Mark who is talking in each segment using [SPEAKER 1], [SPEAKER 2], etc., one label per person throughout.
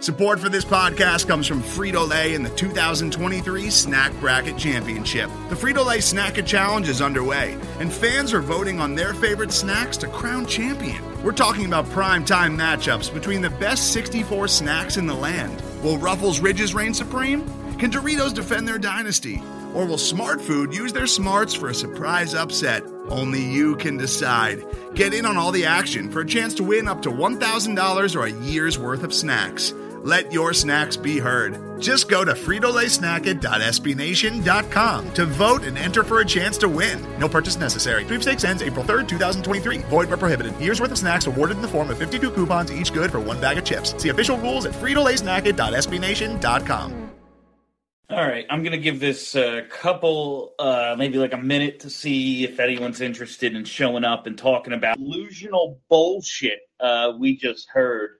[SPEAKER 1] Support for this podcast comes from Frito-Lay and the 2023 Snack Bracket Championship. The Frito-Lay Snack-It Challenge is underway, and fans are voting on their favorite snacks to crown champion. We're talking about prime-time matchups between the best 64 snacks in the land. Will Ruffles Ridges reign supreme? Can Doritos defend their dynasty? Or will Smart Food use their smarts for a surprise upset? Only you can decide. Get in on all the action for a chance to win up to $1,000 or a year's worth of snacks. Let your snacks be heard. Just go to fritolaysnacket.sbnation.com to vote and enter for a chance to win. No purchase necessary. Sweepstakes ends April 3rd, 2023. Void where prohibited. Year's worth of snacks awarded in the form of 52 coupons, each good for one bag of chips. See official rules at fritolaysnacket.sbnation.com.
[SPEAKER 2] All right, I'm going to give this a couple, maybe like a minute to see if anyone's interested in showing up and talking about delusional bullshit we just heard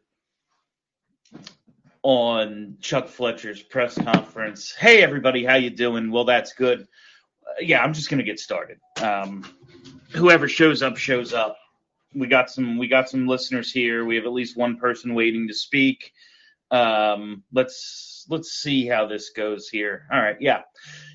[SPEAKER 2] on Chuck Fletcher's press conference. Hey, everybody, how you doing? Well, that's good. Yeah, I'm just going to get started. Whoever shows up, shows up. We got some listeners here. We have at least one person waiting to speak. Let's see how this goes here. All right, yeah.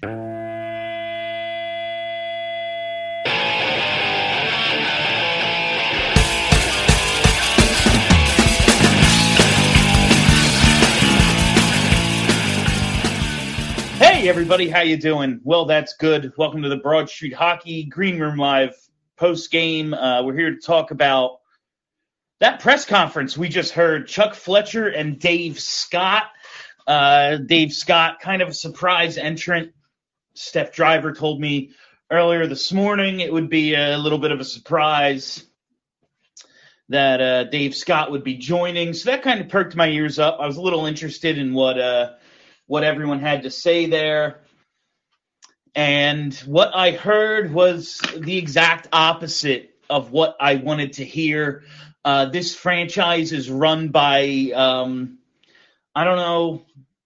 [SPEAKER 2] Hey, everybody, how you doing? Well, that's good. Welcome to the Broad Street Hockey Green Room Live post-game. We're here to talk about that press conference we just heard. Chuck Fletcher and Dave Scott. Dave Scott, kind of a surprise entrant. Steph Driver told me earlier this morning it would be a little bit of a surprise that Dave Scott would be joining. So that kind of perked my ears up. I was a little interested in what everyone had to say there. And what I heard was the exact opposite of what I wanted to hear. This franchise is run by, I don't know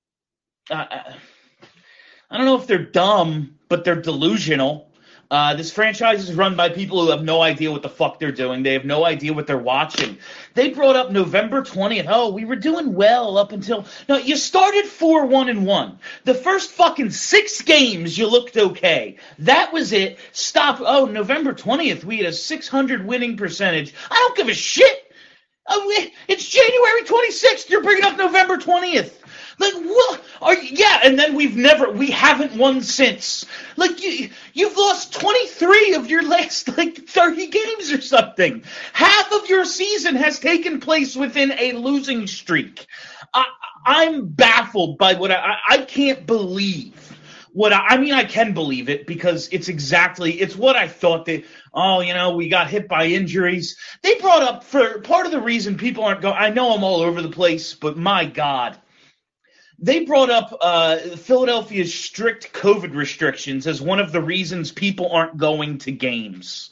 [SPEAKER 2] if they're dumb, but they're delusional. This franchise is run by people who have no idea what the fuck they're doing. They have no idea what they're watching. They brought up November 20th. Oh, we were doing well up until... No, you started 4-1-1. The first fucking 6 games, you looked okay. That was it. Stop. Oh, November 20th, we had a .600 winning percentage. I don't give a shit. It's January 26th. You're bringing up November 20th. Like, what? And then we haven't won since. Like, you've lost 23 of your last, 30 games or something. Half of your season has taken place within a losing streak. I'm baffled by what I can't believe. I can believe it because it's what I thought we got hit by injuries. They brought up, for part of the reason people aren't going, I know I'm all over the place, but my God. They brought up Philadelphia's strict COVID restrictions as one of the reasons people aren't going to games.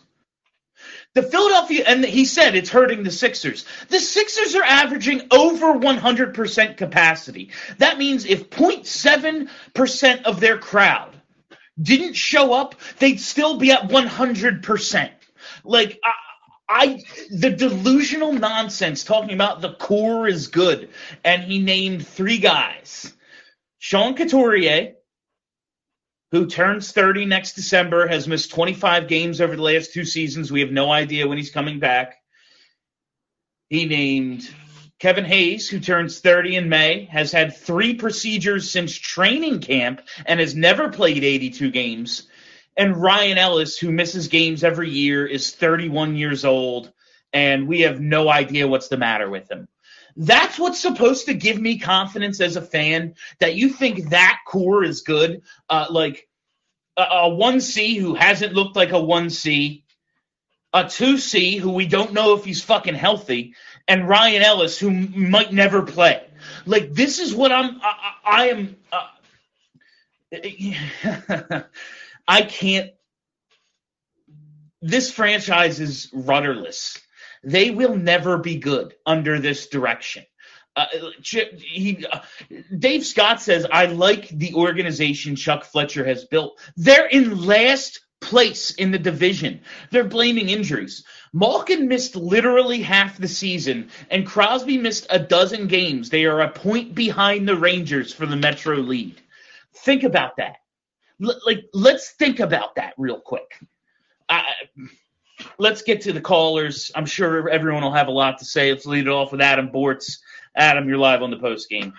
[SPEAKER 2] And he said it's hurting the Sixers. The Sixers are averaging over 100% capacity. That means if 0.7% of their crowd didn't show up, they'd still be at 100%. The delusional nonsense talking about the core is good, and he named 3 guys. Sean Couturier, who turns 30 next December, has missed 25 games over the last 2 seasons. We have no idea when he's coming back. He named Kevin Hayes, who turns 30 in May, has had 3 procedures since training camp and has never played 82 games. And Ryan Ellis, who misses games every year, is 31 years old, and we have no idea what's the matter with him. That's what's supposed to give me confidence as a fan, that you think that core is good. Like a 1C who hasn't looked like a 1C, a 2C who we don't know if he's fucking healthy, and Ryan Ellis who might never play. Like, this is what I can't. This franchise is rudderless. They will never be good under this direction. Dave Scott says, I like the organization Chuck Fletcher has built. They're in last place in the division. They're blaming injuries. Malkin missed literally half the season, and Crosby missed a dozen games. They are a point behind the Rangers for the Metro lead. Think about that. Let's think about that real quick. Let's get to the callers. I'm sure everyone will have a lot to say. Let's lead it off with Adam Bortz. Adam, you're live on the post game.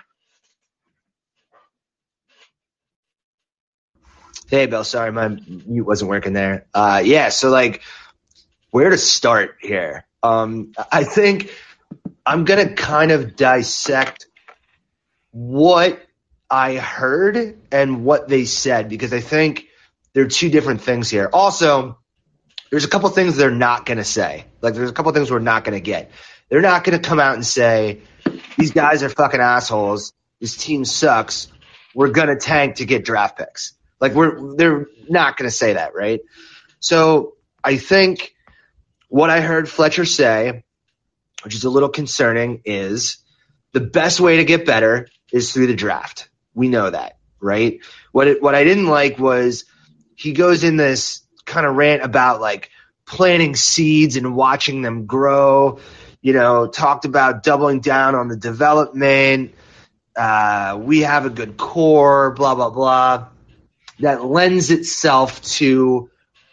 [SPEAKER 3] Hey, Bill. Sorry, my mute wasn't working there. So where to start here? I think I'm going to kind of dissect what I heard and what they said, because I think there are two different things here. Also, there's a couple things they're not going to say. There's a couple things we're not going to get. They're not going to come out and say, these guys are fucking assholes. This team sucks. We're going to tank to get draft picks. They're not going to say that, right? So I think what I heard Fletcher say, which is a little concerning, is the best way to get better is through the draft. We know that, right? What I didn't like was he goes in this kind of rant about planting seeds and watching them grow, talked about doubling down on the development. We have a good core, blah, blah, blah. That lends itself to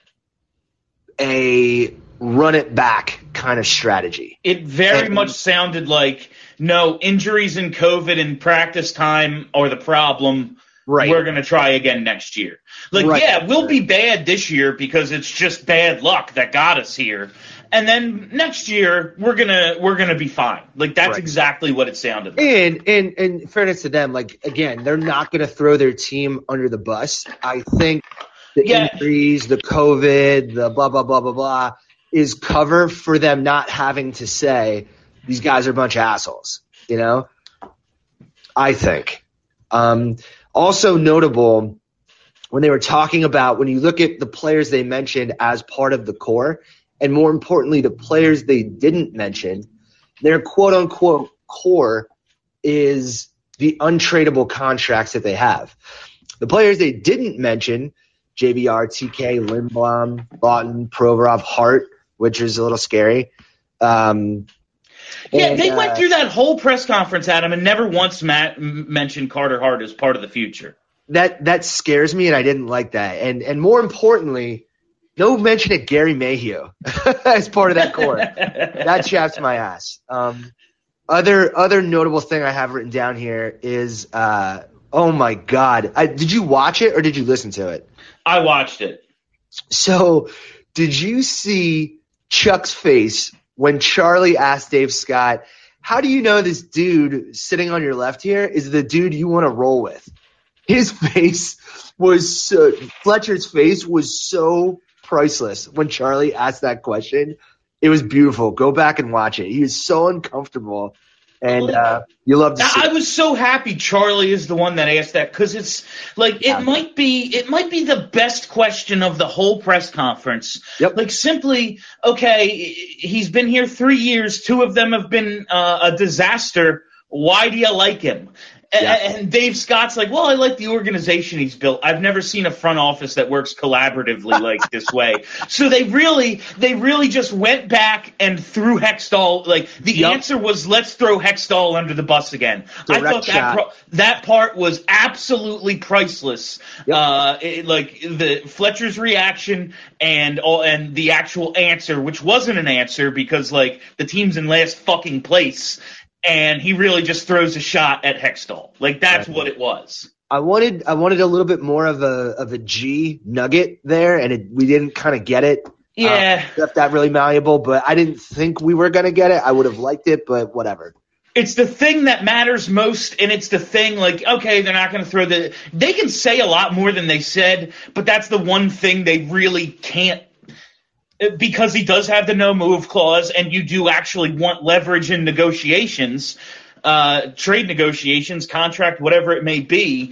[SPEAKER 3] a run it back kind of strategy.
[SPEAKER 2] It very much sounded like, no, injuries and COVID and practice time are the problem. Right. We're going to try again next year. We'll be bad this year because it's just bad luck that got us here. And then next year we're gonna be fine. That's exactly what it sounded like.
[SPEAKER 3] And in fairness to them, again, they're not gonna throw their team under the bus. I think the injuries, the COVID, the blah blah blah blah blah is cover for them not having to say these guys are a bunch of assholes. I think. Also notable when they were talking about, when you look at the players they mentioned as part of the core, and more importantly, the players they didn't mention, their quote-unquote core is the untradeable contracts that they have. The players they didn't mention, JVR, TK, Lindblom, Lawton, Provorov, Hart, which is a little scary.
[SPEAKER 2] They went through that whole press conference, Adam, and never once mentioned Carter Hart as part of the future.
[SPEAKER 3] That scares me, and I didn't like that. And more importantly, no mention of Gary Mayhew as part of that core. That chaps my ass. Other notable thing I have written down here is, oh my God. Did you watch it or did you listen to it?
[SPEAKER 2] I watched it.
[SPEAKER 3] So did you see Chuck's face when Charlie asked Dave Scott, how do you know this dude sitting on your left here is the dude you want to roll with? His face was Fletcher's face was so priceless when Charlie asked that question. It was beautiful. Go back and watch it. He is so uncomfortable, and you love to see it.
[SPEAKER 2] I was so happy Charlie is the one that asked that, because it's it might be the best question of the whole press conference.
[SPEAKER 3] Yep.
[SPEAKER 2] Simply, okay, he's been here 3 years. 2 of them have been a disaster. Why do you like him? Yeah. And Dave Scott's well, I like the organization he's built. I've never seen a front office that works collaboratively like this way. So they really just went back and threw Hextall. The answer was, let's throw Hextall under the bus again.
[SPEAKER 3] Direct
[SPEAKER 2] I thought that part was absolutely priceless.
[SPEAKER 3] Yep.
[SPEAKER 2] The Fletcher's reaction and the actual answer, which wasn't an answer because the team's in last fucking place. And he really just throws a shot at Hextall. That's what it was.
[SPEAKER 3] I wanted a little bit more of a G nugget there, and we didn't kind of get it.
[SPEAKER 2] Yeah.
[SPEAKER 3] Left that really malleable, but I didn't think we were going to get it. I would have liked it, but whatever.
[SPEAKER 2] It's the thing that matters most, and it's the thing okay, they're not going to throw they can say a lot more than they said, but that's the one thing they really can't, because he does have the no move clause, and you do actually want leverage in negotiations, trade negotiations, contract, whatever it may be.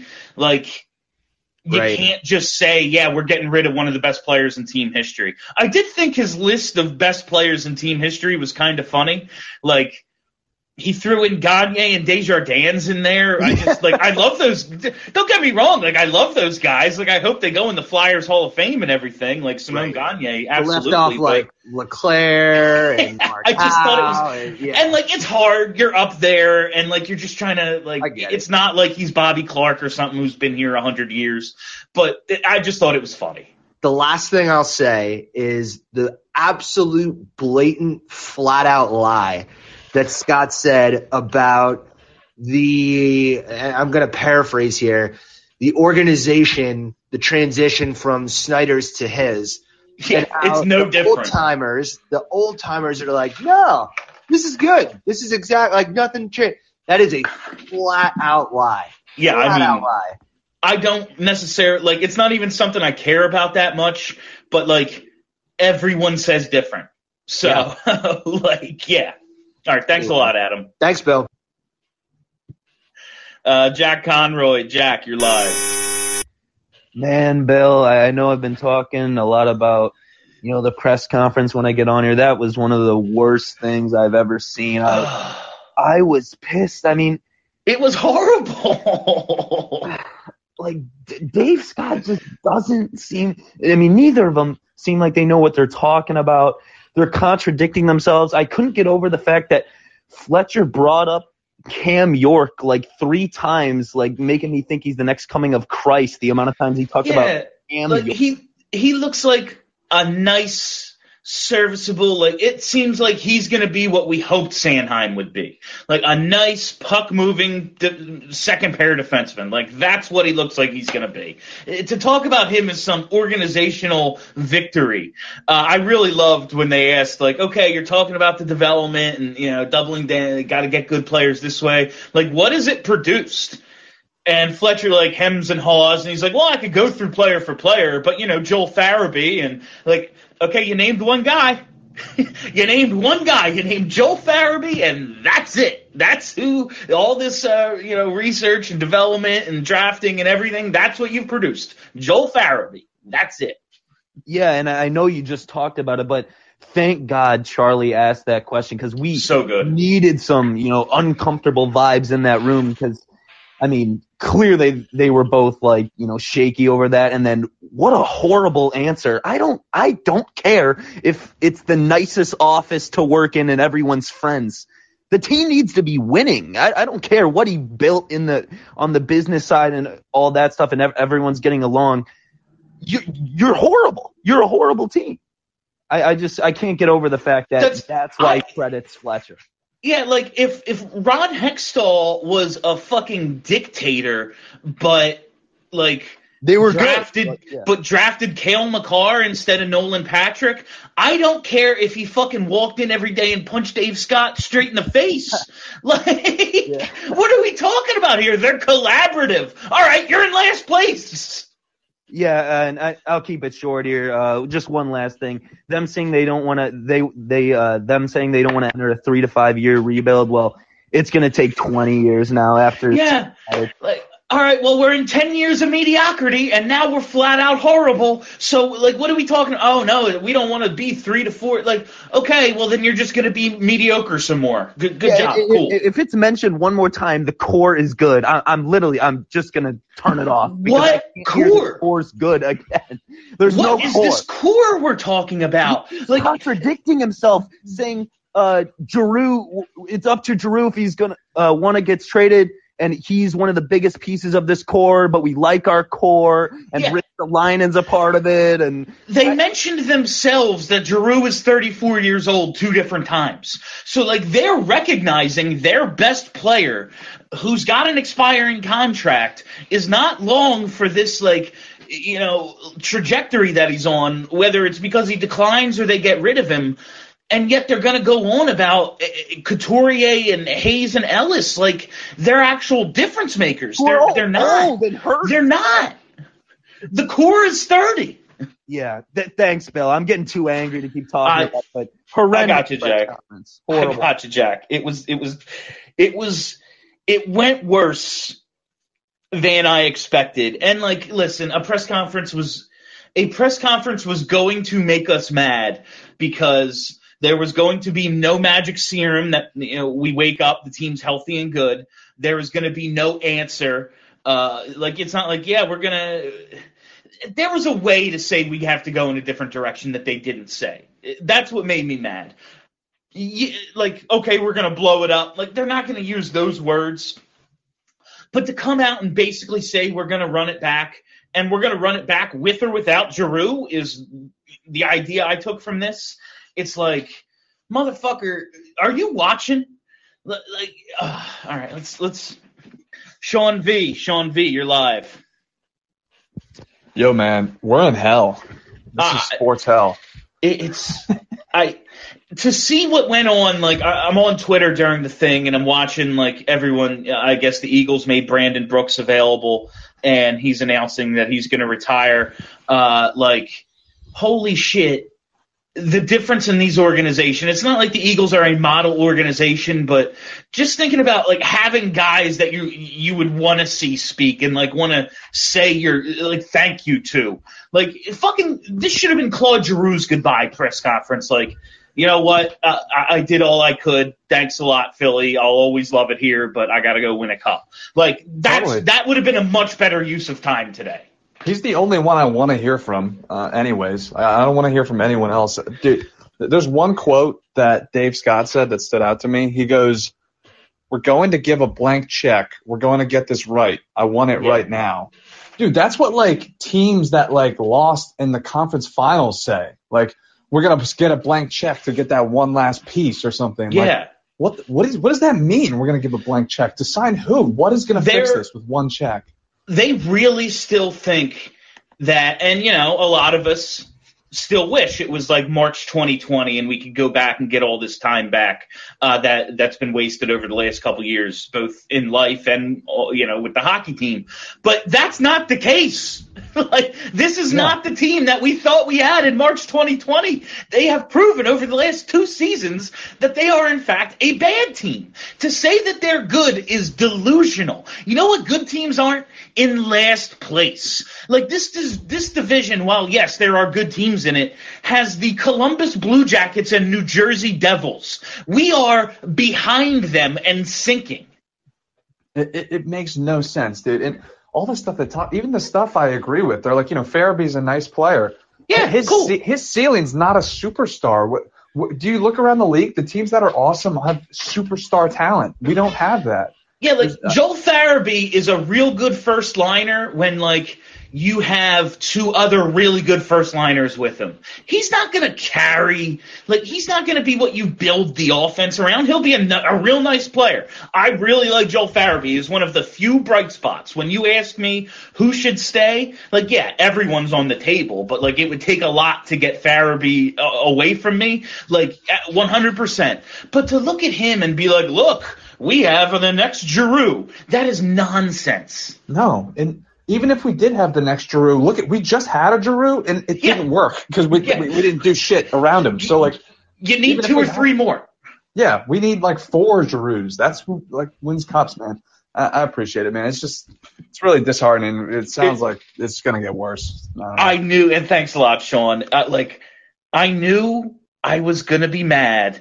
[SPEAKER 2] You can't just say, yeah, we're getting rid of one of the best players in team history. I did think his list of best players in team history was kind of funny. He threw in Gagne and Desjardins in there. I just I love those. Don't get me wrong. I love those guys. I hope they go in the Flyers Hall of Fame and everything. Simone Gagne, absolutely.
[SPEAKER 3] Left off Leclaire and Markau.
[SPEAKER 2] I just thought it was, and it's hard. You're up there, and you're just trying to It's not like he's Bobby Clark or something who's been here 100 years. But I just thought it was funny.
[SPEAKER 3] The last thing I'll say is the absolute blatant, flat out lie that Scott said about I'm going to paraphrase here, the organization, the transition from Snyder's to his.
[SPEAKER 2] Yeah, it's no different.
[SPEAKER 3] The old timers are like, no, this is good. This is exactly nothing changed. That is a flat out lie.
[SPEAKER 2] Yeah,
[SPEAKER 3] flat out lie.
[SPEAKER 2] I don't necessarily it's not even something I care about that much, but everyone says different. So yeah. All right, thanks a lot, Adam.
[SPEAKER 3] Thanks, Bill.
[SPEAKER 2] Jack Conroy. Jack, you're live.
[SPEAKER 4] Man, Bill, I know I've been talking a lot about, the press conference when I get on here. That was one of the worst things I've ever seen. I was pissed. I mean,
[SPEAKER 2] it was horrible.
[SPEAKER 4] Dave Scott just doesn't seem – neither of them seem like they know what they're talking about. They're contradicting themselves. I couldn't get over the fact that Fletcher brought up Cam York 3 times, making me think he's the next coming of Christ, the amount of times he talks about Cam York.
[SPEAKER 2] He looks like a nice – serviceable, it seems like he's going to be what we hoped Sanheim would be. A nice puck-moving second pair defenseman. That's what he looks like he's going to be. To talk about him as some organizational victory, I really loved when they asked, okay, you're talking about the development and, doubling down, got to get good players this way. What has it produced? And Fletcher hems and haws, and he's like, well, I could go through player for player, but, Joel Farabee, and okay, you named one guy. You named Joel Farabee, and that's it. That's who all this, research and development and drafting and everything, that's what you've produced. Joel Farabee. That's it.
[SPEAKER 4] Yeah, and I know you just talked about it, but thank God Charlie asked that question because we needed some, uncomfortable vibes in that room because, clearly they were both shaky over that. And then what a horrible answer. I don't care if it's the nicest office to work in and everyone's friends. The team needs to be winning. I don't care what he built on the business side and all that stuff and everyone's getting along. You're horrible. You're a horrible team. I can't get over the fact that that's why he credits Fletcher.
[SPEAKER 2] Yeah, if Ron Hextall was a fucking dictator, but
[SPEAKER 4] they were
[SPEAKER 2] drafted,
[SPEAKER 4] good.
[SPEAKER 2] But drafted Cale Makar instead of Nolan Patrick, I don't care if he fucking walked in every day and punched Dave Scott straight in the face. What are we talking about here? They're collaborative. All right, you're in last place.
[SPEAKER 4] Yeah, and I'll keep it short here. Just one last thing. Them saying they don't want to. Them saying they don't want to enter a 3 to 5 year rebuild. Well, it's going to take 20 years now. After
[SPEAKER 2] all right, well, we're in 10 years of mediocrity, and now we're flat out horrible. So, what are we talking? Oh, no, we don't want to be 3 to 4. Okay, well, then you're just going to be mediocre some more. Good job. Cool.
[SPEAKER 4] If it's mentioned one more time, the core is good. I'm just going to turn it off.
[SPEAKER 2] What core?
[SPEAKER 4] The core's good again. There's
[SPEAKER 2] what
[SPEAKER 4] no
[SPEAKER 2] is
[SPEAKER 4] core.
[SPEAKER 2] This core we're talking about?
[SPEAKER 4] He's contradicting himself, saying Giroux, it's up to Giroux if he's going to want to get traded. And he's one of the biggest pieces of this core, but we like our core, and Rick Linen's a part of it. And
[SPEAKER 2] they mentioned themselves that Giroux is 34 years old 2 different times. So, they're recognizing their best player, who's got an expiring contract, is not long for this, trajectory that he's on, whether it's because he declines or they get rid of him. And yet they're going to go on about Couturier and Hayes and Ellis they're actual difference makers. They're not.
[SPEAKER 4] Old and hurt.
[SPEAKER 2] They're not. The core is 30.
[SPEAKER 4] Yeah. Thanks, Bill. I'm getting too angry to keep talking about it, but horrendous.
[SPEAKER 2] I got you, Jack. I got you, Jack. It went worse than I expected. And listen, a press conference was going to make us mad because There was going to be no magic serum that we wake up, the team's healthy and good. There was going to be no answer. It's not like, we're going to – there was a way to say we have to go in a different direction that they didn't say. That's what made me mad. Okay, we're going to blow it up. They're not going to use those words. But to come out and basically say we're going to run it back, and we're going to run it back with or without Giroux is the idea I took from this. It's like, motherfucker, are you watching? All right, let's. Sean V, you're live.
[SPEAKER 5] Yo, man, we're in hell. This is sports hell.
[SPEAKER 2] To see what went on, I'm on Twitter during the thing, and I'm watching, everyone, I guess the Eagles made Brandon Brooks available, and he's announcing that he's going to retire. Holy shit, the difference in these organizations. It's not like the Eagles are a model organization, but just thinking about, having guys that you would want to see speak and, want to say your thank you to. This should have been Claude Giroux's goodbye press conference. You know what? I did all I could. Thanks a lot, Philly. I'll always love it here, but I got to go win a cup. That would have been a much better use of time today.
[SPEAKER 5] He's the only one I want to hear from anyways. I don't want to hear from anyone else. Dude, there's one quote that Dave Scott said that stood out to me. He goes, "We're going to give a blank check. We're going to get this right. I want it right now." Dude, that's what, teams that, lost in the conference finals say. We're going to get a blank check to get that one last piece or something.
[SPEAKER 2] Yeah.
[SPEAKER 5] What does that mean? We're going to give a blank check to sign who? What is going to fix this with one check?
[SPEAKER 2] They really still think that, and a lot of us still wish it was March 2020 and we could go back and get all this time back that's been wasted over the last couple of years, both in life and with the hockey team. But that's not the case. This is not the team that we thought we had in March 2020. They have proven over the last 2 seasons that they are, in fact, a bad team. To say that they're good is delusional. You know what good teams aren't? In last place. This division, while, yes, there are good teams in it, has the Columbus Blue Jackets and New Jersey Devils. We are behind them and sinking.
[SPEAKER 5] It makes no sense, dude. And all the stuff even the stuff I agree with. They're Farabee's a nice player.
[SPEAKER 2] Yeah,
[SPEAKER 5] his ceiling's not a superstar. Do you look around the league? The teams that are awesome have superstar talent. We don't have that.
[SPEAKER 2] Yeah, Joel Farabee is a real good first liner when you have 2 other really good first liners with him. He's not going to carry, he's not going to be what you build the offense around. He'll be a real nice player. I really like Joel Farabee. He's one of the few bright spots. When you ask me who should stay, everyone's on the table, but it would take a lot to get Farabee away from me, 100%. But to look at him and be look, we have the next Giroux, that is nonsense.
[SPEAKER 5] No, and even if we did have the next Giroux, we just had a Giroux, and it didn't work because we didn't do shit around him. So,
[SPEAKER 2] you need 2 or 3 more.
[SPEAKER 5] Yeah, we need 4 Giroux. That's who wins cups, man. I appreciate it, man. It's really disheartening. It sounds like it's going to get worse.
[SPEAKER 2] I knew, and thanks a lot, Sean. I knew I was going to be mad.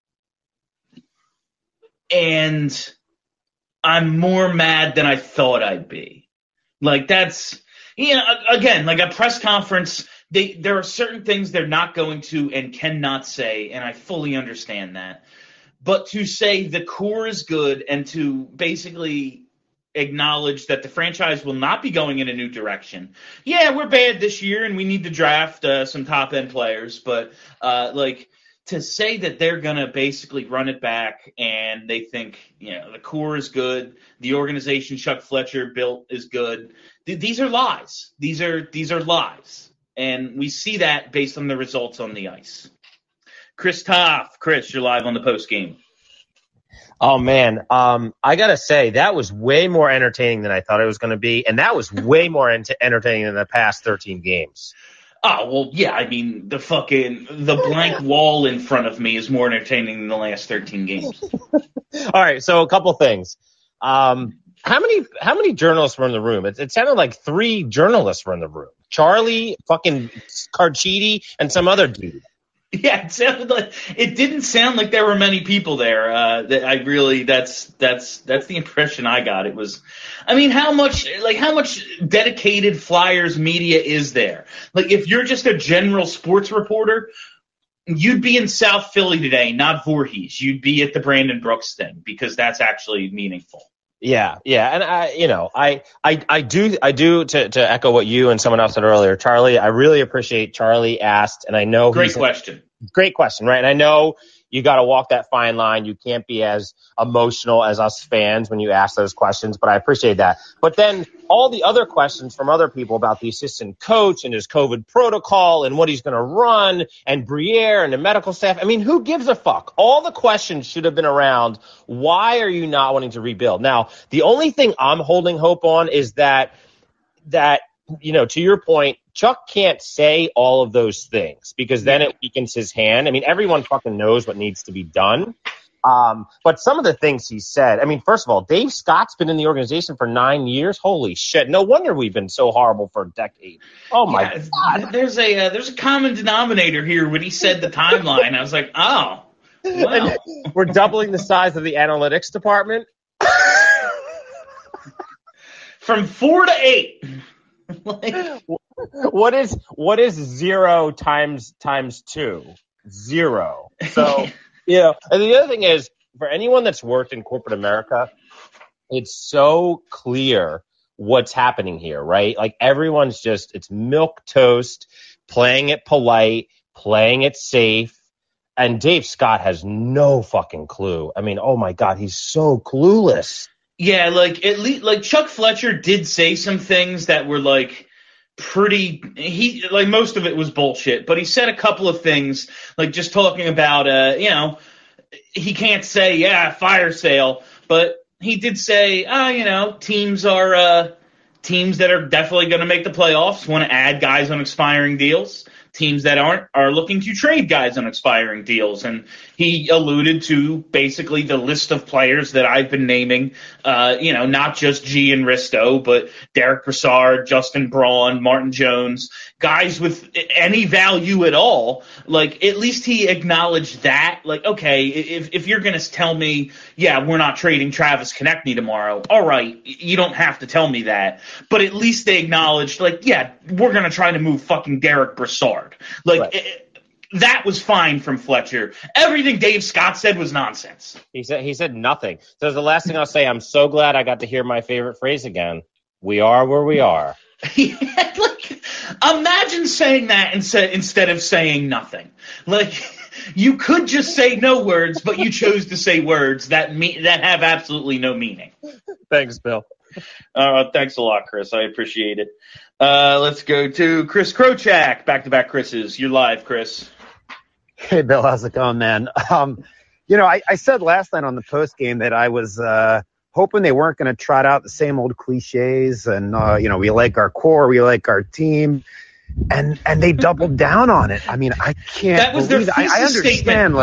[SPEAKER 2] And I'm more mad than I thought I'd be. That's, again, a press conference, there are certain things they're not going to and cannot say, and I fully understand that. But to say the core is good and to basically acknowledge that the franchise will not be going in a new direction. Yeah, we're bad this year and we need to draft some top-end players, but, to say that they're going to basically run it back and they think, the core is good, the organization Chuck Fletcher built is good, these are lies. These are lies. And we see that based on the results on the ice. Chris Toff. Chris, you're live on the post game.
[SPEAKER 6] Oh, man. I got to say, that was way more entertaining than I thought it was going to be, and that was way more entertaining than the past 13 games.
[SPEAKER 2] Oh, well, yeah, I mean, the blank wall in front of me is more entertaining than the last 13 games.
[SPEAKER 6] All right, so a couple things. How many journalists were in the room? It sounded like 3 journalists were in the room. Charlie, fucking Carchidi, and some other dude.
[SPEAKER 2] Yeah, it didn't sound like there were many people there. That's the impression I got. It was, I mean, how much dedicated Flyers media is there? Like, if you're just a general sports reporter, you'd be in South Philly today, not Voorhees. You'd be at the Brandon Brooks thing because that's actually meaningful.
[SPEAKER 6] Yeah, and I do to echo what you and someone else said earlier, Charlie. I really appreciate Charlie asked, and I know
[SPEAKER 2] great question,
[SPEAKER 6] right? And I know you got to walk that fine line. You can't be as emotional as us fans when you ask those questions, but I appreciate that. But then all the other questions from other people about the assistant coach and his COVID protocol and what he's going to run and Briere and the medical staff. I mean, who gives a fuck? All the questions should have been around. Why are you not wanting to rebuild? Now, the only thing I'm holding hope on is that, to your point, Chuck can't say all of those things because then it weakens his hand. I mean, everyone fucking knows what needs to be done. But some of the things he said, I mean, first of all, Dave Scott's been in the organization for 9 years. Holy shit. No wonder we've been so horrible for a decade. Oh my God.
[SPEAKER 2] There's a common denominator here when he said the timeline. I was like, oh, wow.
[SPEAKER 6] We're doubling the size of the analytics department.
[SPEAKER 2] From 4 to 8.
[SPEAKER 6] What is 0 times 2? 0. So, and the other thing is, for anyone that's worked in corporate America, it's so clear what's happening here, right? Like, everyone's it's milquetoast, playing it polite, playing it safe, and Dave Scott has no fucking clue. I mean, oh my God, he's so clueless.
[SPEAKER 2] Yeah, at least Chuck Fletcher did say some things that were most of it was bullshit, but he said a couple of things, just talking about he can't say fire sale, but he did say teams that are definitely going to make the playoffs want to add guys on expiring deals. Teams that aren't are looking to trade guys on expiring deals. And he alluded to basically the list of players that I've been naming, not just G and Risto, but Derek Brassard, Justin Braun, Martin Jones, guys with any value at all. At least he acknowledged that. Okay, if you're going to tell me, we're not trading Travis Konechny tomorrow, all right, you don't have to tell me that. But at least they acknowledged, we're going to try to move fucking Derek Brassard. Right. That was fine from Fletcher. Everything Dave Scott said was nonsense.
[SPEAKER 6] He said nothing. So the last thing I'll say, I'm so glad I got to hear my favorite phrase again. We are where we are.
[SPEAKER 2] Imagine saying that instead of saying nothing. You could just say no words, but you chose to say words that have absolutely no meaning.
[SPEAKER 6] Thanks, Bill.
[SPEAKER 2] Thanks a lot, Chris. I appreciate it. Let's go to Chris Krochak. Back-to-back Chris's. You're live, Chris.
[SPEAKER 7] Hey, Bill. How's it going, man? I said last night on the post game that I was hoping they weren't going to trot out the same old cliches and, we like our core, we like our team. And they doubled down on it. I mean, I can't
[SPEAKER 2] that was
[SPEAKER 7] believe
[SPEAKER 2] their
[SPEAKER 7] it. I understand,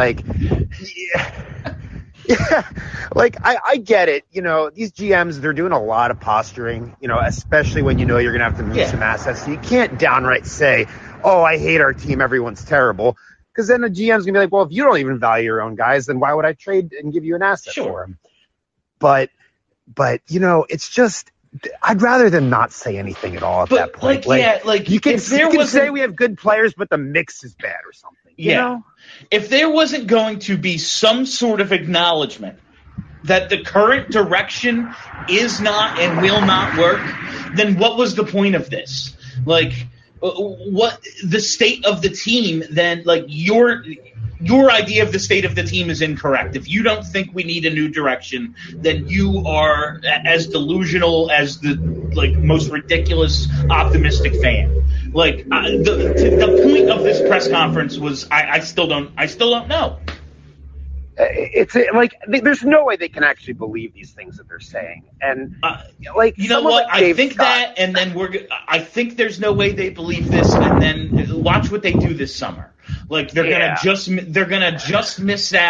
[SPEAKER 7] I get it. These GMs, they're doing a lot of posturing, especially when you're going to have to move some assets. So you can't downright say, oh, I hate our team, everyone's terrible. Because then the GM's going to be like, well, if you don't even value your own guys, then why would I trade and give you an asset for them? But it's just, I'd rather them not say anything at all at that point. You can say we have good players, but the mix is bad or something. You know?
[SPEAKER 2] If there wasn't going to be some sort of acknowledgement that the current direction is not and will not work, then what was the point of this? What the state of the team? Then, your idea of the state of the team is incorrect. If you don't think we need a new direction, then you are as delusional as the most ridiculous optimistic fan. The point of this press conference was I still don't know.
[SPEAKER 7] It's there's no way they can actually believe these things that they're saying. And
[SPEAKER 2] you know what? I think Scott, that, and then I think there's no way they believe this, and then watch what they do this summer. They're gonna just miss out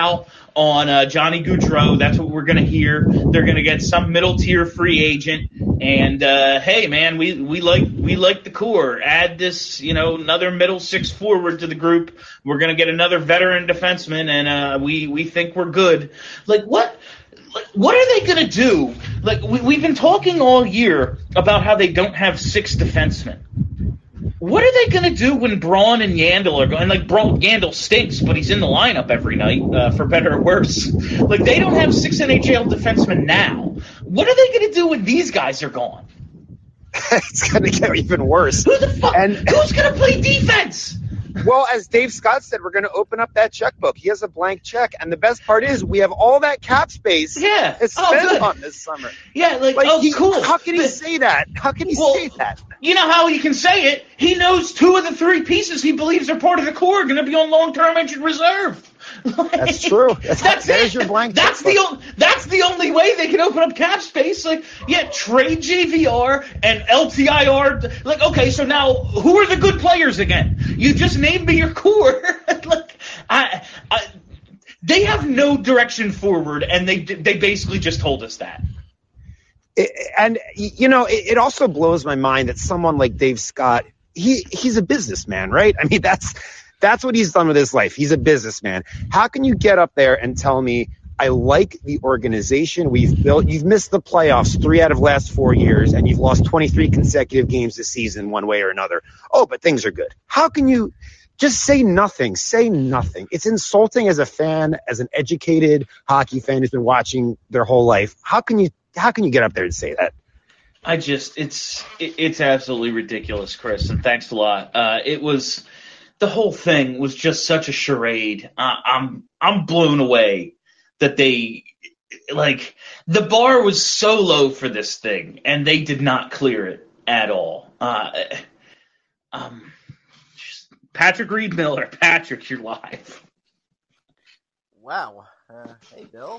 [SPEAKER 2] on Johnny Gaudreau. That's what we're going to hear. They're going to get some middle tier free agent. And hey, man, we like the core. Add this, another middle six forward to the group. We're going to get another veteran defenseman, and we think we're good. Like what? What are they going to do? Like we've been talking all year about how they don't have 6 defensemen. What are they going to do when Braun and Yandle are going? Like, Yandle stinks, but he's in the lineup every night, for better or worse. Like, they don't have 6 NHL defensemen now. What are they going to do when these guys are gone?
[SPEAKER 7] It's going to get even worse.
[SPEAKER 2] Who the fuck? Who's going to play defense?
[SPEAKER 7] Well, as Dave Scott said, we're going to open up that checkbook. He has a blank check. And the best part is we have all that cap space to spend on this summer.
[SPEAKER 2] Yeah, cool.
[SPEAKER 7] How can he say that? How can he say that?
[SPEAKER 2] You know how he can say it? He knows 2 of the 3 pieces he believes are part of the core are going to be on long-term injured reserve.
[SPEAKER 7] That's true. That is your blank check.
[SPEAKER 2] That's the only way they can open up cap space. Like, trade JVR and LTIR. Like, okay, so now who are the good players again? You just named me your core. They have no direction forward, and they basically just told us that.
[SPEAKER 7] It also blows my mind that someone like Dave Scott, he's a businessman, right? I mean, that's what he's done with his life. He's a businessman. How can you get up there and tell me, I like the organization we've built? You've missed the playoffs 3 out of the last 4 years, and you've lost 23 consecutive games this season one way or another. Oh, but things are good. How can you just say nothing? Say nothing. It's insulting as a fan, as an educated hockey fan who's been watching their whole life. How can you get up there and say that?
[SPEAKER 2] It's absolutely ridiculous, Chris, and thanks a lot. The whole thing was just such a charade. I'm blown away that they, the bar was so low for this thing, and they did not clear it at all. Patrick Reed Miller. Patrick, you're live.
[SPEAKER 8] Wow. Hey, Bill.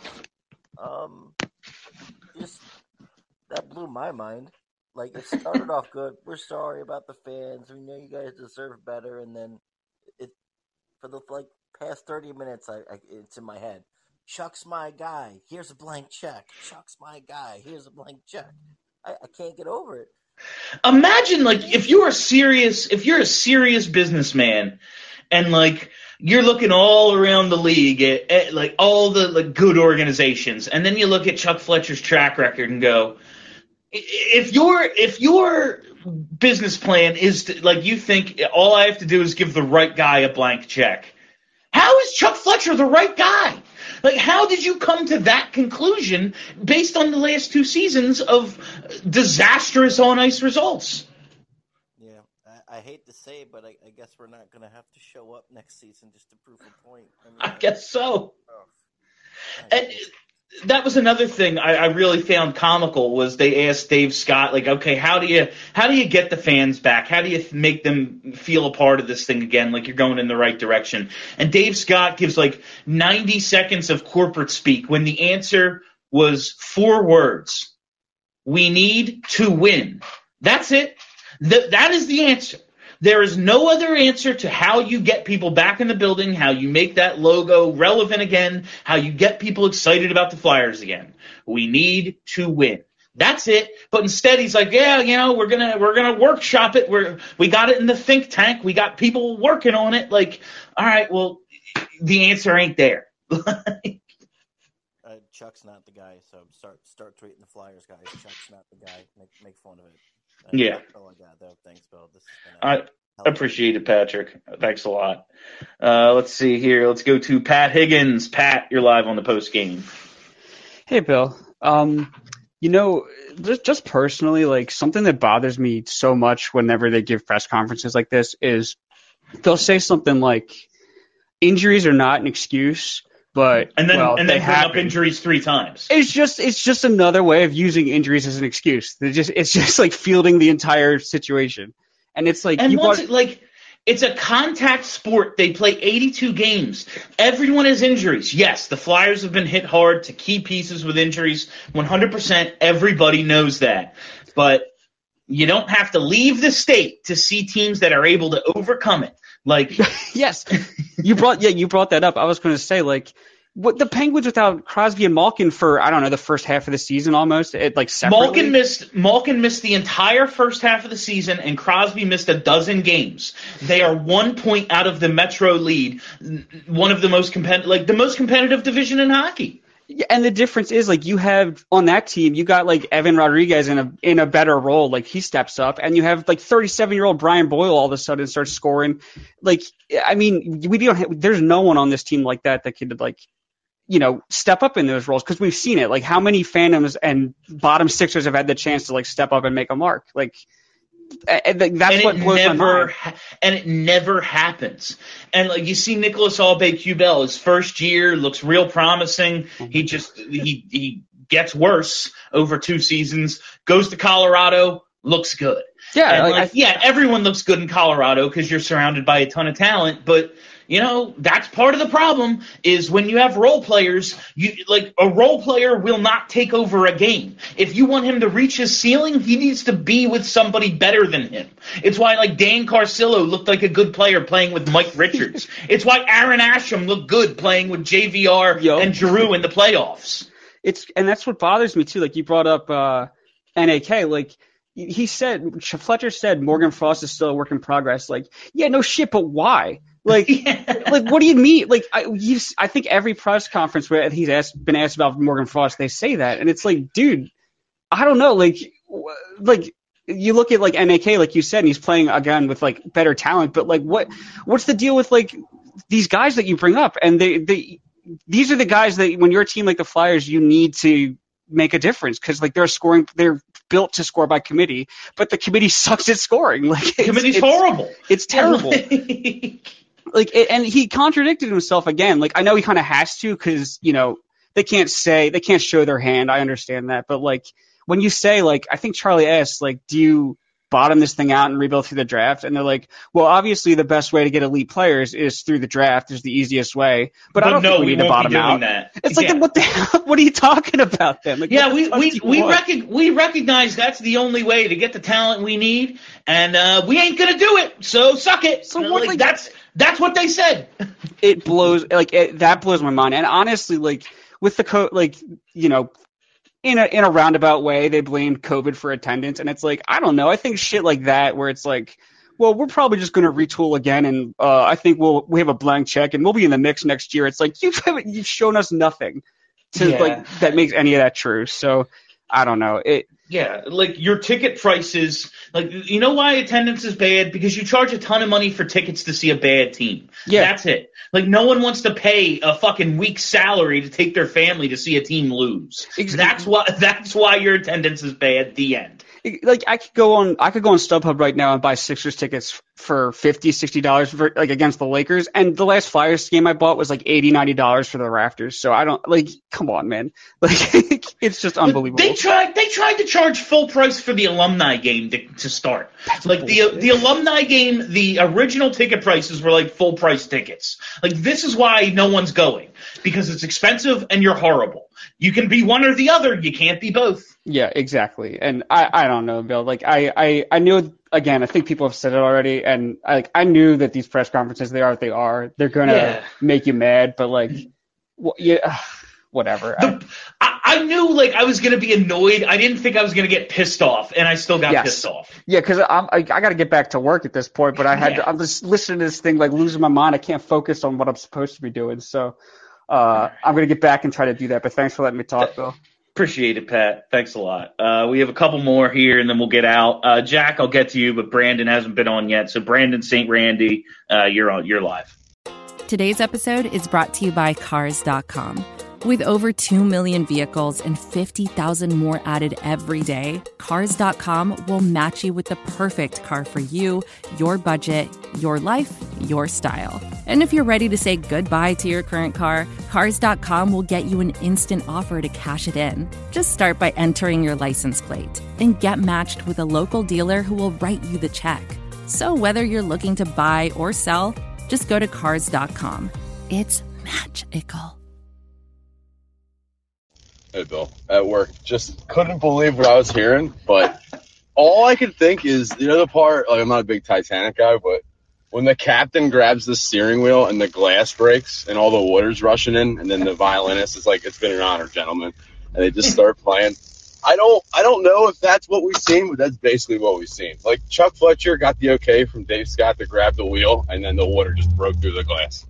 [SPEAKER 8] That blew my mind. Like, it started off good. We're sorry about the fans. We know you guys deserve better. And then for the past 30 minutes, it's in my head. Chuck's my guy. Here's a blank check. Chuck's my guy. Here's a blank check. I can't get over it.
[SPEAKER 2] Imagine, if you're a serious businessman and, you're looking all around the league at all the good organizations, and then you look at Chuck Fletcher's track record and go, if your business plan is to, you think all I have to do is give the right guy a blank check, how is Chuck Fletcher the right guy? How did you come to that conclusion based on the last 2 seasons of disastrous on-ice results?
[SPEAKER 8] Yeah, I hate to say it, but I guess we're not going to have to show up next season just to prove a point.
[SPEAKER 2] I guess so. And that was another thing I really found comical was they asked Dave Scott, okay, how do you get the fans back? How do you make them feel a part of this thing again, you're going in the right direction? And Dave Scott gives 90 seconds of corporate speak when the answer was 4 words. We need to win. That's it. That is the answer. There is no other answer to how you get people back in the building, how you make that logo relevant again, how you get people excited about the Flyers again. We need to win. That's it. But instead he's like, we're gonna workshop it. We got it in the think tank. We got people working on it. All right, well, the answer ain't there.
[SPEAKER 8] Chuck's not the guy, so start tweeting the Flyers guys. Chuck's not the guy. Make fun of it.
[SPEAKER 2] Yeah.
[SPEAKER 8] Oh my God, though. Thanks, Bill.
[SPEAKER 2] I appreciate it, Patrick. Thanks a lot. Let's see here. Let's go to Pat Higgins. Pat, you're live on the post game.
[SPEAKER 9] Hey, Bill. Just personally, something that bothers me so much whenever they give press conferences like this is they'll say something like, "Injuries are not an excuse." But
[SPEAKER 2] and then bring up injuries 3 times.
[SPEAKER 9] It's just another way of using injuries as an excuse. It's just fielding the entire situation, and it's
[SPEAKER 2] it's a contact sport. They play 82 games. Everyone has injuries. Yes, the Flyers have been hit hard to key pieces with injuries. 100%. Everybody knows that, but you don't have to leave the state to see teams that are able to overcome it.
[SPEAKER 9] Yes, you brought that up. I was going to say, what the Penguins without Crosby and Malkin for, I don't know, the first half of the season almost, separately.
[SPEAKER 2] Malkin missed the entire first half of the season, and Crosby missed a dozen games. They are 1 point out of the Metro lead, one of the most competitive division in hockey.
[SPEAKER 9] Yeah, and the difference is, you have on that team, you got Evan Rodriguez in a better role, he steps up, and you have 37-year-old Brian Boyle all of a sudden starts scoring. There's no one on this team like that could step up in those roles, because we've seen it. How many Phantoms and bottom sixers have had the chance to step up and make a mark? That's what blows my mind.
[SPEAKER 2] And it never happens. And you see Nicolas Aube-Kubel, his first year looks real promising. He gets worse over 2 seasons. Goes to Colorado, looks good.
[SPEAKER 9] Yeah,
[SPEAKER 2] everyone looks good in Colorado because you're surrounded by a ton of talent, but that's part of the problem is when you have role players, a role player will not take over a game. If you want him to reach his ceiling, he needs to be with somebody better than him. It's why Dan Carcillo looked like a good player playing with Mike Richards. It's why Aaron Asham looked good playing with JVR and Giroux in the playoffs.
[SPEAKER 9] And that's what bothers me too. You brought up NAK, Fletcher said Morgan Frost is still a work in progress. No shit, but why? What do you mean? I think every press conference where he's been asked about Morgan Frost, they say that, and it's dude, I don't know. You look at NAK, you said, and he's playing again with better talent, but what's the deal with these guys that you bring up? And these are the guys that when you're a team like the Flyers, you need to make a difference, because they're built to score by committee, but the committee sucks at scoring.
[SPEAKER 2] Committee's horrible.
[SPEAKER 9] It's terrible. And he contradicted himself again. I know he kind of has to, because they can't show their hand. I understand that, but when you say I think Charlie asked do you bottom this thing out and rebuild through the draft? And they're well, obviously the best way to get elite players is through the draft, is the easiest way. But I don't think we need to bottom out.
[SPEAKER 2] That.
[SPEAKER 9] It's what the hell? What are you talking about then?
[SPEAKER 2] We recognize that's the only way to get the talent we need, and we ain't gonna do it. So suck it. So what? That's what they said.
[SPEAKER 9] It blows that blows my mind. And honestly, with the in a roundabout way, they blamed COVID for attendance, and it's I don't know. I think shit like that, where it's well, we're probably just going to retool again, and I think we have a blank check, and we'll be in the mix next year. It's you've shown us nothing that makes any of that true. So I don't know.
[SPEAKER 2] Your ticket prices, you know why attendance is bad? Because you charge a ton of money for tickets to see a bad team. Yeah. That's it. No one wants to pay a fucking week's salary to take their family to see a team lose. Exactly. That's why your attendance is bad. The end.
[SPEAKER 9] I could go on StubHub right now and buy Sixers tickets for $50, $60 against the Lakers, and the last Flyers game I bought was $80, $90 for the rafters. So I don't come on, man. It's just unbelievable.
[SPEAKER 2] They tried to charge full price for the alumni game to start. The alumni game, the original ticket prices were full price tickets. This is why no one's going, because it's expensive and you're horrible. You can be one or the other. You can't be both.
[SPEAKER 9] Yeah, exactly. And I don't know, Bill. I knew, again, I think people have said it already, and I knew that these press conferences, they are what they are. They're gonna make you mad, but whatever.
[SPEAKER 2] I knew I was gonna be annoyed. I didn't think I was gonna get pissed off, and I still got pissed off.
[SPEAKER 9] Yeah, because I got to get back to work at this point, but I'm just listening to this thing losing my mind. I can't focus on what I'm supposed to be doing, so I'm gonna get back and try to do that. But thanks for letting me talk, Bill.
[SPEAKER 2] Appreciate it, Pat. Thanks a lot. We have a couple more here, and then we'll get out. Jack, I'll get to you, but Brandon hasn't been on yet. So Brandon St. Randy, you're live.
[SPEAKER 10] Today's episode is brought to you by Cars.com. With over 2 million vehicles and 50,000 more added every day, Cars.com will match you with the perfect car for you, your budget, your life, your style. And if you're ready to say goodbye to your current car, Cars.com will get you an instant offer to cash it in. Just start by entering your license plate. Then get matched with a local dealer who will write you the check. So whether you're looking to buy or sell, just go to Cars.com. It's magical.
[SPEAKER 11] Hey, Bill, at work, just couldn't believe what I was hearing, but all I could think is, the part, I'm not a big Titanic guy, but when the captain grabs the steering wheel and the glass breaks and all the water's rushing in, and then the violinist is like, "It's been an honor, gentlemen," and they just start playing. I don't know if that's what we've seen, but that's basically what we've seen. Like, Chuck Fletcher got the okay from Dave Scott to grab the wheel, and then the water just broke through the glass.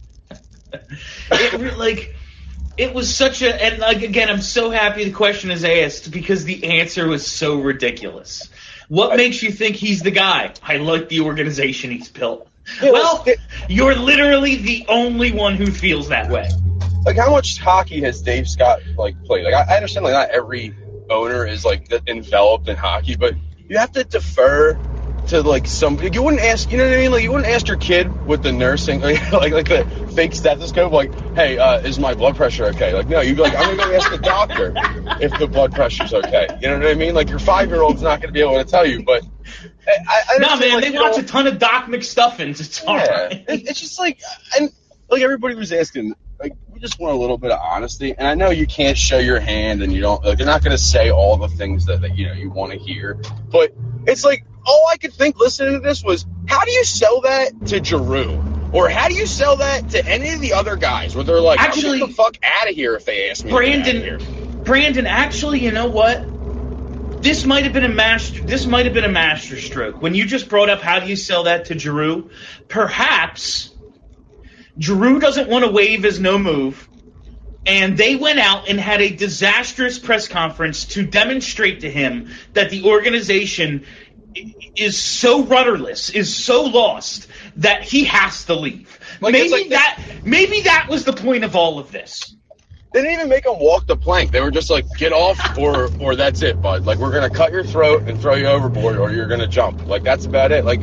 [SPEAKER 2] It was such a, and like, again, I'm so happy the question is asked because the answer was so ridiculous. What makes you think he's the guy? I like the organization he's built. Yeah, well, you're literally the only one who feels that way.
[SPEAKER 11] Like, how much hockey has Dave Scott played? Like, I understand not every owner is enveloped in hockey, but you have to defer to somebody. You wouldn't ask, you know what I mean? Like, you wouldn't ask your kid with the nursing, like the fake stethoscope, hey, is my blood pressure okay? Like, no, you'd be like, I'm gonna go ask the doctor if the blood pressure's okay. You know what I mean? Like, your 5-year-old's not gonna be able to tell you, but
[SPEAKER 2] they watch a ton of Doc McStuffins. It's all right.
[SPEAKER 11] It's just and everybody was asking, we just want a little bit of honesty. And I know you can't show your hand, and you don't. They're not going to say all the things that you want to hear. But it's all I could think listening to this was, how do you sell that to Giroux? Or how do you sell that to any of the other guys where they're like, actually, get the fuck out of here if they ask me.
[SPEAKER 2] Brandon, actually, you know what? This might have been a master stroke. When you just brought up how do you sell that to Giroux, perhaps Giroux doesn't want to waive his no move, and they went out and had a disastrous press conference to demonstrate to him that the organization is so rudderless, is so lost, that he has to leave. Maybe that was the point of all of this.
[SPEAKER 11] They didn't even make him walk the plank. They were just like, get off or that's it, bud. Like, we're going to cut your throat and throw you overboard or you're going to jump. Like, that's about it. Like,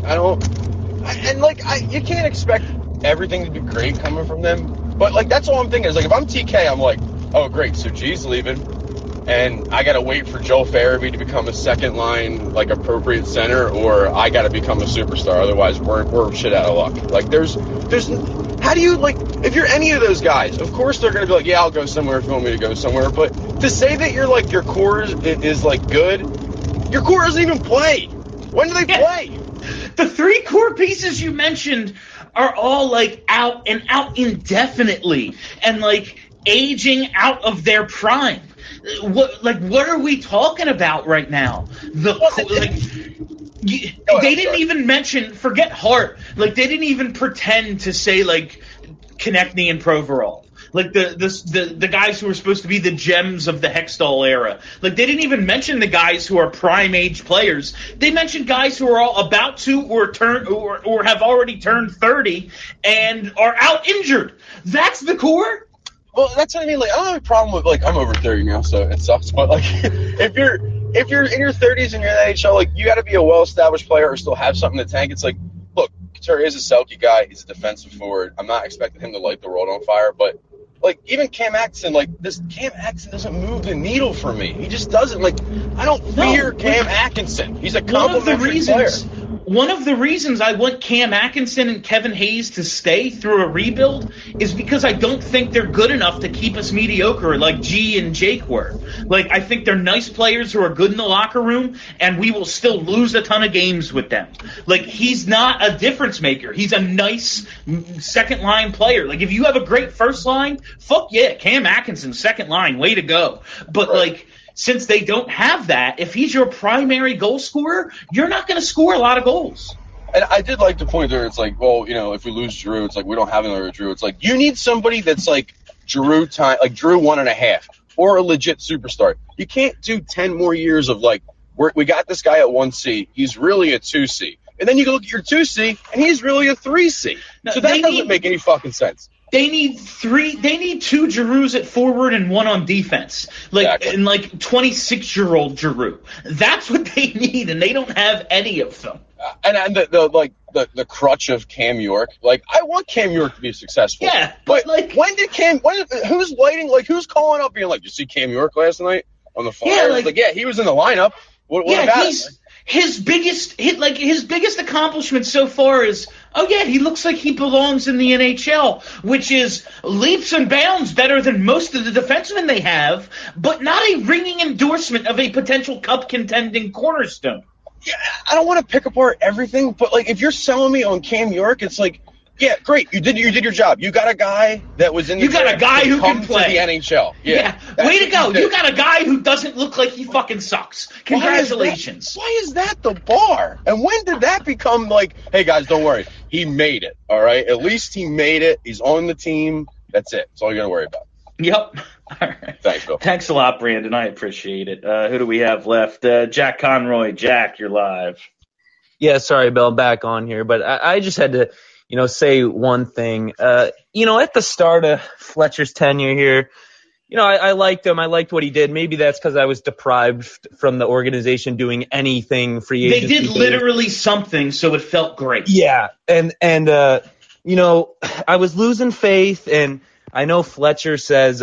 [SPEAKER 11] you can't expect everything to be great coming from them. But, that's all I'm thinking is, if I'm TK, I'm like, oh, great, so G's leaving, and I got to wait for Joel Farabee to become a second-line, appropriate center, or I got to become a superstar. Otherwise, we're shit out of luck. There's how do you, if you're any of those guys, of course they're going to be like, yeah, I'll go somewhere if you want me to go somewhere. But to say that your core is good, your core doesn't even play. When do they play?
[SPEAKER 2] The 3 core pieces you mentioned are all out indefinitely and aging out of their prime. What are we talking about right now? They didn't even mention, forget Hart. They didn't even pretend to say Konechny and Provorov. The guys who are supposed to be the gems of the Hextall era. They didn't even mention the guys who are prime age players. They mentioned guys who are all about to or have already turned 30 and are out injured. That's the core?
[SPEAKER 11] Well, that's what I mean. I don't have a problem with, I'm over 30 now, so it sucks. But, if you're in your 30s and you're in the NHL, you got to be a well-established player or still have something to tank. It's look, Couture is a Selke guy. He's a defensive forward. I'm not expecting him to light the world on fire, but even Cam Atkinson, Cam Atkinson doesn't move the needle for me. He just doesn't. I don't fear Cam Atkinson. He's a complimentary player.
[SPEAKER 2] One of the reasons I want Cam Atkinson and Kevin Hayes to stay through a rebuild is because I don't think they're good enough to keep us mediocre like G and Jake were. I think they're nice players who are good in the locker room, and we will still lose a ton of games with them. He's not a difference maker. He's a nice second-line player. If you have a great first line, fuck yeah, Cam Atkinson, second line, way to go. But, right. Since they don't have that, if he's your primary goal scorer, you're not going to score a lot of goals.
[SPEAKER 11] And I did like the point there. It's if we lose Giroux, it's we don't have another Giroux. It's you need somebody that's Giroux time, Giroux 1.5, or a legit superstar. You can't do 10 more years of we got this guy at 1C. He's really a 2C. And then you go look at your 2C, and he's really a 3C. No, so that doesn't make any fucking sense.
[SPEAKER 2] They need 2 Giroux at forward and 1 on defense. Exactly. And 26-year-old Giroux. That's what they need, and they don't have any of them.
[SPEAKER 11] And the crutch of Cam York. I want Cam York to be successful.
[SPEAKER 2] Yeah,
[SPEAKER 11] but who's lighting? Who's calling up being did you see Cam York last night on the Flyers? Yeah, he was in the lineup. What about it?
[SPEAKER 2] His biggest accomplishment so far is, he looks like he belongs in the NHL, which is leaps and bounds better than most of the defensemen they have, but not a ringing endorsement of a potential cup contending cornerstone.
[SPEAKER 11] yeah, I don't want to pick apart everything, but like if you're selling me on Cam York, it's like, yeah, great, you did your job. You got a guy that was in the
[SPEAKER 2] You got a guy who can play
[SPEAKER 11] to the NHL. Yeah.
[SPEAKER 2] Way to go. You got a guy who doesn't look like he fucking sucks. Congratulations.
[SPEAKER 11] Why is that the bar? And when did that become like, hey guys, don't worry, he made it. All right, at least he made it. He's on the team. That's it. That's all you got to worry about.
[SPEAKER 2] Yep. All right.
[SPEAKER 11] Thanks, Bill.
[SPEAKER 2] Thanks a lot, Brandon. I appreciate it. Who do we have left? Jack Conroy. Jack, you're live.
[SPEAKER 4] Yeah, sorry, Bill, back on here, but I just had to, say one thing. At the start of Fletcher's tenure here, I liked him. I liked what he did. Maybe that's because I was deprived from the organization doing anything free agency.
[SPEAKER 2] They did literally something, so it felt great.
[SPEAKER 4] Yeah, and I was losing faith, and I know Fletcher says,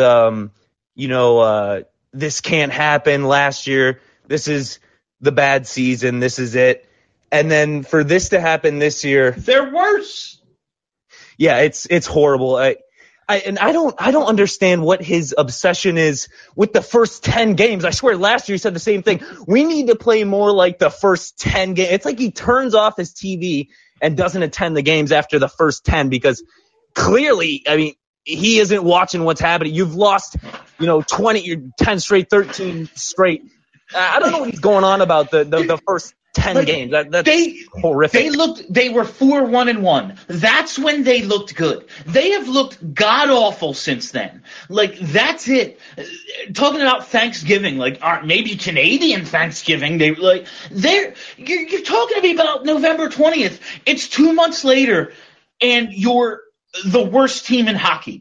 [SPEAKER 4] this can't happen last year. This is the bad season. This is it. And then for this to happen this year,
[SPEAKER 2] they're worse.
[SPEAKER 4] Yeah, it's horrible. I don't understand what his obsession is with the first 10 games. I swear last year he said the same thing. We need to play more like the first 10 games. It's like he turns off his TV and doesn't attend the games after the first 10 because clearly, he isn't watching what's happening. You've lost, 10 straight, 13 straight. I don't know what he's going on about the first 10 games. That's horrific.
[SPEAKER 2] They were 4-1-1. That's when they looked good. They have looked god-awful since then. That's it. Talking about Thanksgiving, maybe Canadian Thanksgiving, you're talking to me about November 20th. It's 2 months later, and you're the worst team in hockey.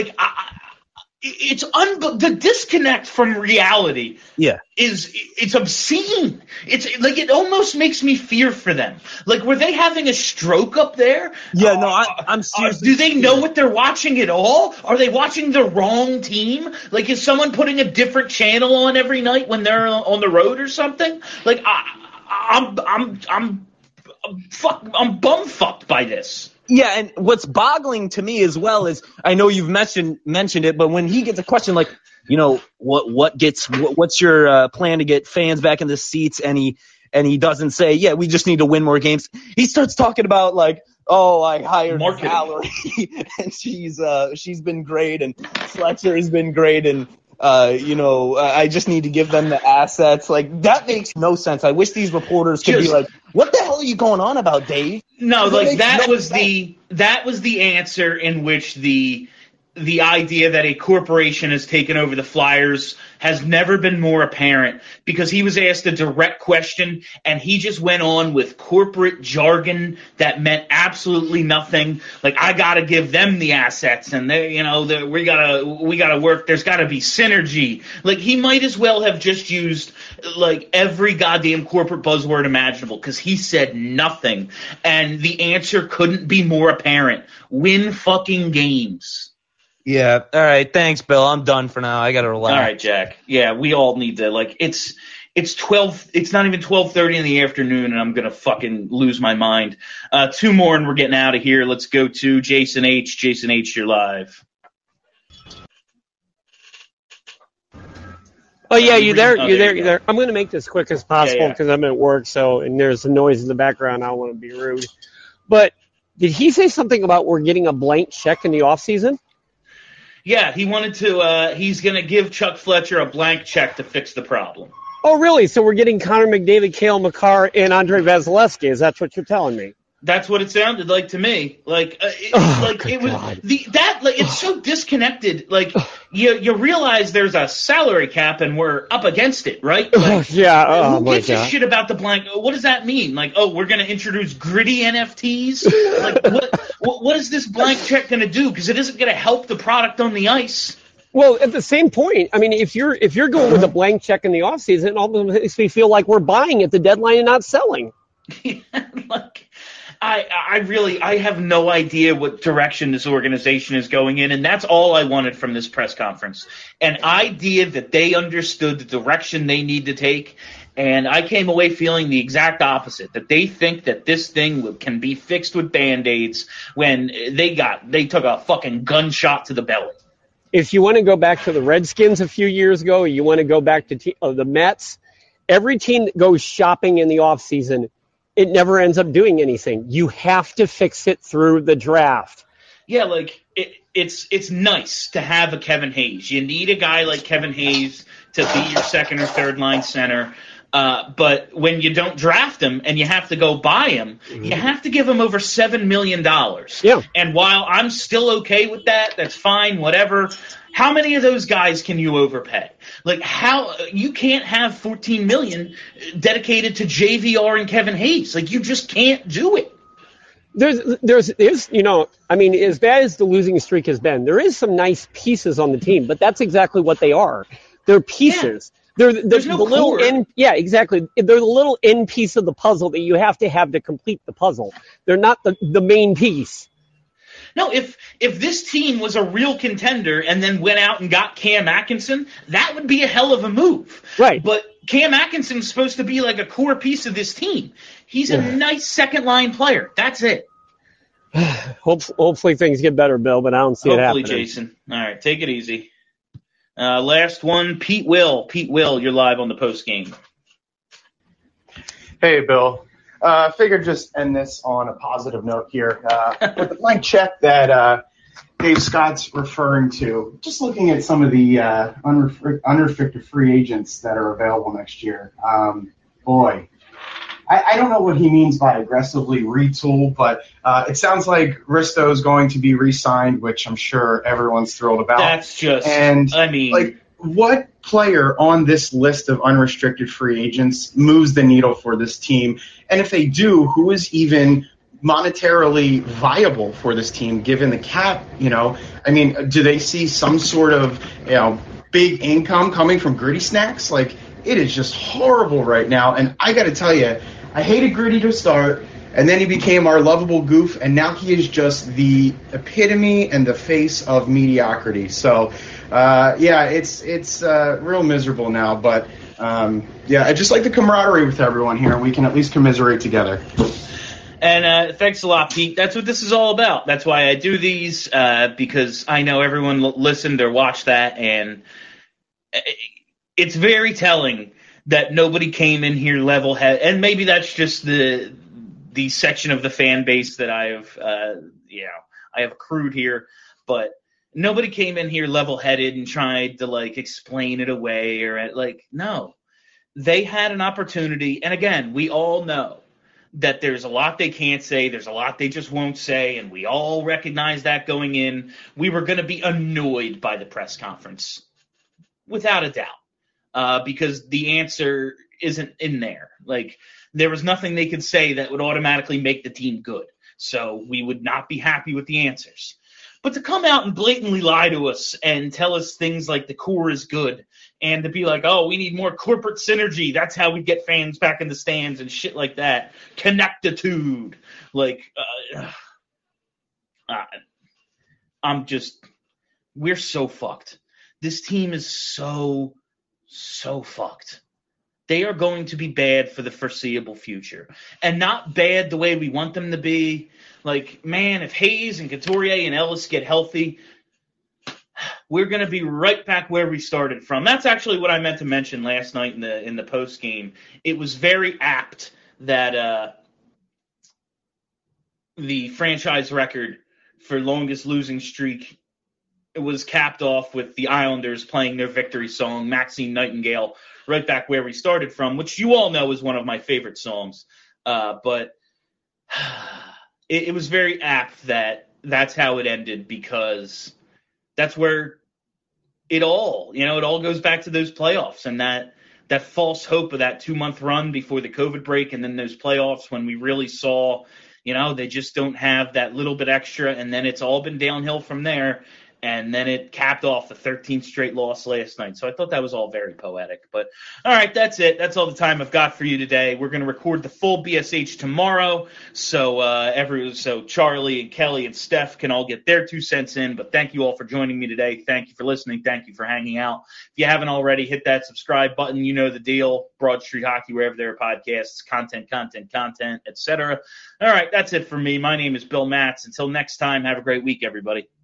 [SPEAKER 2] The disconnect from reality.
[SPEAKER 4] Yeah,
[SPEAKER 2] it's obscene. It almost makes me fear for them. Were they having a stroke up there?
[SPEAKER 4] Yeah, no, I'm serious.
[SPEAKER 2] Do they know what they're watching at all? Are they watching the wrong team? Is someone putting a different channel on every night when they're on the road or something? I'm bumfucked by this.
[SPEAKER 4] Yeah, and what's boggling to me as well is I know you've mentioned it, but when he gets a question like, what's your plan to get fans back in the seats, and he doesn't say, yeah, we just need to win more games. He starts talking about I hired Valerie and she's been great, and Fletcher has been great, and I just need to give them the assets. That makes no sense. I wish these reporters could be like, what the hell are you going on about, Dave?
[SPEAKER 2] No, that was the answer in which the idea that a corporation has taken over the Flyers has never been more apparent, because he was asked a direct question and he just went on with corporate jargon that meant absolutely nothing. I got to give them the assets, and they, we got to work. There's got to be synergy. He might as well have just used every goddamn corporate buzzword imaginable, because he said nothing, and the answer couldn't be more apparent. Win fucking games.
[SPEAKER 4] Yeah. All right. Thanks, Bill. I'm done for now. I got to relax.
[SPEAKER 2] All right, Jack. Yeah, we all need to it's 12. It's not even 12:30 in the afternoon, and I'm gonna fucking lose my mind. 2 more, and we're getting out of here. Let's go to Jason H. Jason H., you're live.
[SPEAKER 12] Oh yeah, you're there. You're there. I'm gonna make this quick as possible because I'm at work. And there's a noise in the background. I don't want to be rude. But did he say something about we're getting a blank check in the off season?
[SPEAKER 2] Yeah, he wanted to. He's going to give Chuck Fletcher a blank check to fix the problem.
[SPEAKER 12] Oh, really? So we're getting Connor McDavid, Cale Makar, and Andrei Vasilevsky. Is that what you're telling me?
[SPEAKER 2] That's what it sounded like to me. It's so disconnected. You realize there's a salary cap and we're up against it, right?
[SPEAKER 12] Yeah.
[SPEAKER 2] Who gives a shit about the blank? What does that mean? We're going to introduce gritty NFTs? What is this blank check going to do? Because it isn't going to help the product on the ice.
[SPEAKER 12] Well, at the same point, if you're going with a blank check in the offseason, it all makes me feel like we're buying at the deadline and not selling.
[SPEAKER 2] I have no idea what direction this organization is going in, and that's all I wanted from this press conference. An idea that they understood the direction they need to take, and I came away feeling the exact opposite, that they think that this thing can be fixed with Band-Aids when they took a fucking gunshot to the belly.
[SPEAKER 12] If you want to go back to the Redskins a few years ago, you want to go back to the Mets, every team that goes shopping in the offseason, it never ends up doing anything. You have to fix it through the draft.
[SPEAKER 2] Yeah, like it's nice to have a Kevin Hayes. You need a guy like Kevin Hayes to be your second or third line center. But when you don't draft him and you have to go buy him, you have to give him over $7 million.
[SPEAKER 12] Yeah.
[SPEAKER 2] And while I'm still okay with that, that's fine, whatever. How many of those guys can you overpay? Like, how you can't have $14 million dedicated to JVR and Kevin Hayes. Like, you just can't do it.
[SPEAKER 12] There's I mean, as bad as the losing streak has been, there is some nice pieces on the team, but that's exactly what they are. They're pieces. Yeah. There's no the little end. Yeah, exactly. They're the little end piece of the puzzle that you have to complete the puzzle. They're not the main piece.
[SPEAKER 2] No, if this team was a real contender and then went out and got Cam Atkinson, that would be a hell of a move.
[SPEAKER 12] Right.
[SPEAKER 2] But Cam Atkinson's supposed to be like a core piece of this team. He's a nice second-line player. That's it.
[SPEAKER 12] Hopefully things get better, Bill, but I don't see it happening.
[SPEAKER 2] Hopefully, Jason. All right, take it easy. Last one, Pete Will. Pete Will, you're live on the post game.
[SPEAKER 13] Hey, Bill. Figured just end this on a positive note here. With the blank check that Dave Scott's referring to, just looking at some of the unrestricted free agents that are available next year. I don't know what he means by aggressively retool, but it sounds like Risto is going to be re-signed, which I'm sure everyone's thrilled about.
[SPEAKER 2] That's just,
[SPEAKER 13] what player on this list of unrestricted free agents moves the needle for this team? And if they do, who is even monetarily viable for this team given the cap? Do they see some sort of, big income coming from Gritty Snacks? Like, it is just horrible right now. And I got to tell you, I hated Gritty to start, and then he became our lovable goof, and now he is just the epitome and the face of mediocrity. So, it's real miserable now. But, I just like the camaraderie with everyone here, and we can at least commiserate together.
[SPEAKER 2] And thanks a lot, Pete. That's what this is all about. That's why I do these, because I know everyone listened or watched that, and it's very telling that nobody came in here level-headed, and maybe that's just the section of the fan base that I have accrued here, but nobody came in here level-headed and tried to explain it away no. They had an opportunity, and again, we all know that there's a lot they can't say, there's a lot they just won't say, and we all recognize that going in. We were going to be annoyed by the press conference, without a doubt. Because the answer isn't in there. There was nothing they could say that would automatically make the team good. So we would not be happy with the answers. But to come out and blatantly lie to us and tell us things like the core is good and to be like, oh, we need more corporate synergy. That's how we get fans back in the stands and shit like that. Connectitude. We're so fucked. This team is so fucked. They are going to be bad for the foreseeable future. And not bad the way we want them to be. If Hayes and Couturier and Ellis get healthy, we're going to be right back where we started from. That's actually what I meant to mention last night in the post game. It was very apt that the franchise record for longest losing streak, it was capped off with the Islanders playing their victory song, Maxine Nightingale, right back where we started from, which you all know is one of my favorite songs. But it was very apt that that's how it ended, because that's where it all goes back to those playoffs and that false hope of that 2-month run before the COVID break, and then those playoffs when we really saw, they just don't have that little bit extra, and then it's all been downhill from there. And then it capped off the 13th straight loss last night. So I thought that was all very poetic. But, all right, that's it. That's all the time I've got for you today. We're going to record the full BSH tomorrow. So Charlie and Kelly and Steph can all get their 2 cents in. But thank you all for joining me today. Thank you for listening. Thank you for hanging out. If you haven't already, hit that subscribe button. You know the deal. Broad Street Hockey, wherever there are podcasts, content, etc. All right, that's it for me. My name is Bill Matz. Until next time, have a great week, everybody.